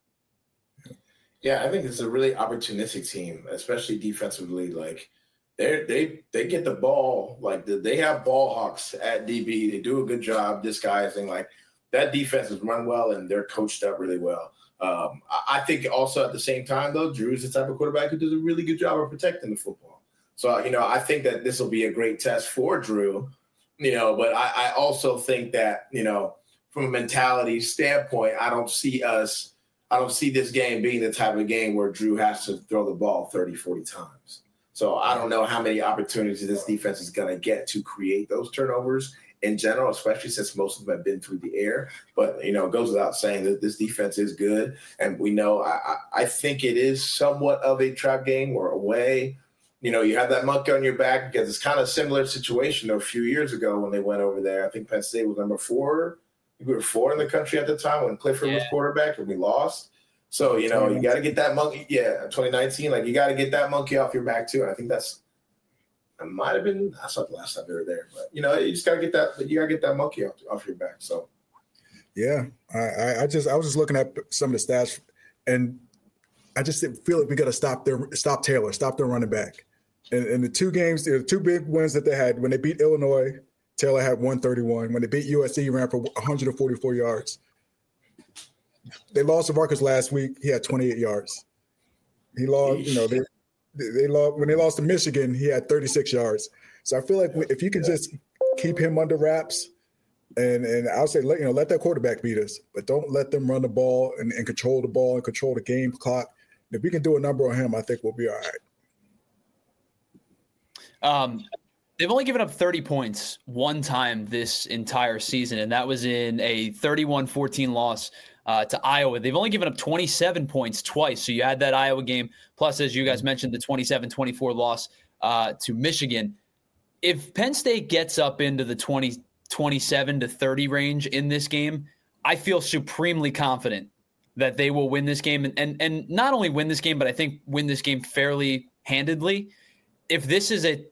Yeah, I think it's a really opportunistic team, especially defensively. Like, they get the ball, like they have ball hawks at DB. They do a good job disguising. Like, that defense is run well, and they're coached up really well. I think also at the same time, though, Drew's the type of quarterback who does a really good job of protecting the football. So, I think that this will be a great test for Drew, but I also think that, from a mentality standpoint, I don't see this game being the type of game where Drew has to throw the ball 30, 40 times. So I don't know how many opportunities this defense is going to get to create those turnovers in general, especially since most of them have been through the air. But, it goes without saying that this defense is good. And we know I think it is somewhat of a trap game or a way. You have that monkey on your back, because it's kind of a similar situation a few years ago when they went over there. I think Penn State was number 4 We were 4 in the country at the time when Clifford was quarterback, and we lost. So, you got to get that monkey. Yeah, 2019. Like, you got to get that monkey off your back, too. And I think that's – it might have been – that's not the last time they were there. But, you just got to get that – you got to get that monkey off your back. So, yeah. I was just looking at some of the stats, and I just feel like we got to stop Taylor, stop their running back. And the 2 games, the 2 big wins that they had, when they beat Illinois, Taylor had 131. When they beat USC, he ran for 144 yards. They lost to Rutgers last week. He had 28 yards. He lost, they lost when they lost to Michigan. He had 36 yards. So I feel like if you can just keep him under wraps, and I'll say let that quarterback beat us, but don't let them run the ball and control the ball and control the game clock. If we can do a number on him, I think we'll be all right. They've only given up 30 points one time this entire season, and that was in a 31-14 loss to Iowa. They've only given up 27 points twice. So you add that Iowa game, plus, as you guys mentioned, the 27-24 loss to Michigan. If Penn State gets up into the 27 to 30 range in this game, I feel supremely confident that they will win this game, and not only win this game, but I think win this game fairly handedly. If this is a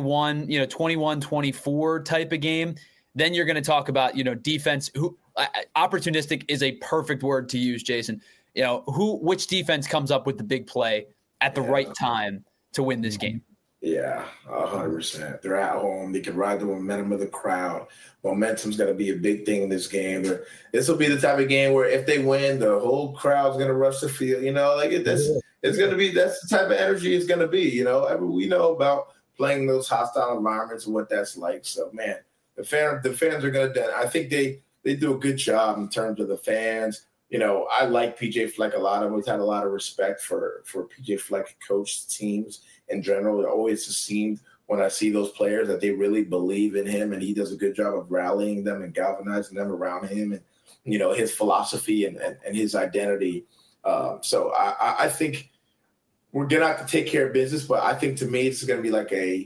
21-24 type of game, then you're going to talk about, defense. Opportunistic is a perfect word to use, Jason. Which defense comes up with the big play at the right time to win this game? Yeah, 100%. They're at home. They can ride the momentum of the crowd. Momentum's going to be a big thing in this game. This will be the type of game where if they win, the whole crowd's going to rush the field. It's going to be – that's the type of energy it's going to be. We know about playing those hostile environments and what that's like. So, man, the fans are going to – I think they do a good job in terms of the fans. I like P.J. Fleck a lot. I've always had a lot of respect for P.J. Fleck coached teams in general. It always just seemed when I see those players that they really believe in him, and he does a good job of rallying them and galvanizing them around him and, his philosophy and his identity. So I think we're going to have to take care of business, but I think to me it's going to be like a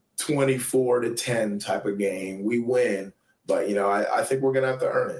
24-10 type of game. We win, but, I think we're going to have to earn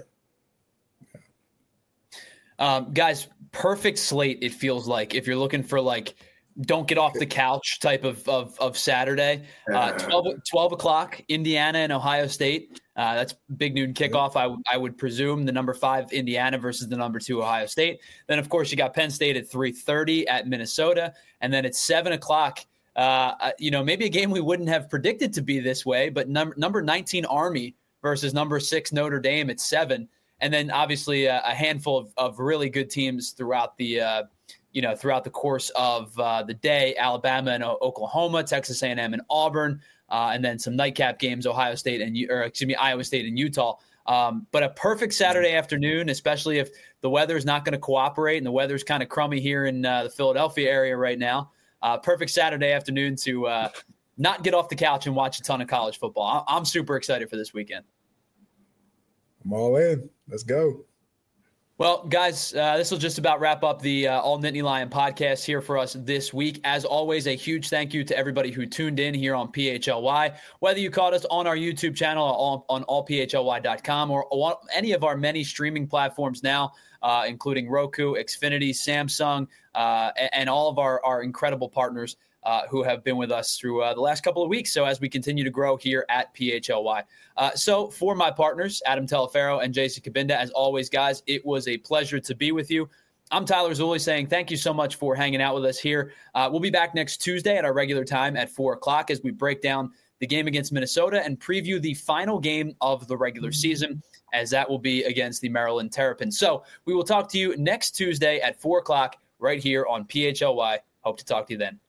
it. Guys, perfect slate, it feels like, if you're looking for don't get off the couch type of Saturday. 12 o'clock, Indiana and Ohio State. That's big noon kickoff, I would presume. The number 5 Indiana versus the number 2 Ohio State. Then, of course, you got Penn State at 3:30 at Minnesota. And then at 7 o'clock, maybe a game we wouldn't have predicted to be this way, but number 19 Army versus number 6 Notre Dame at 7. And then obviously a handful of really good teams throughout the course of the day: Alabama and Oklahoma, Texas A&M and Auburn, and then some nightcap games: Iowa State and Utah. But a perfect Saturday afternoon, especially if the weather is not going to cooperate and the weather's kind of crummy here in the Philadelphia area right now. Perfect Saturday afternoon to not get off the couch and watch a ton of college football. I'm super excited for this weekend. I'm all in. Let's go. Well, guys, this will just about wrap up the All Nittany Lion podcast here for us this week. As always, a huge thank you to everybody who tuned in here on PHLY. Whether you caught us on our YouTube channel or on allphly.com or on any of our many streaming platforms now, including Roku, Xfinity, Samsung, and all of our incredible partners who have been with us through the last couple of weeks. So as we continue to grow here at PHLY. So for my partners, Adam Telefaro and Jason Cabinda, as always, guys, it was a pleasure to be with you. I'm Tyler Zulli saying thank you so much for hanging out with us here. We'll be back next Tuesday at our regular time at 4 o'clock as we break down the game against Minnesota and preview the final game of the regular season, as that will be against the Maryland Terrapins. So we will talk to you next Tuesday at 4 o'clock right here on PHLY. Hope to talk to you then.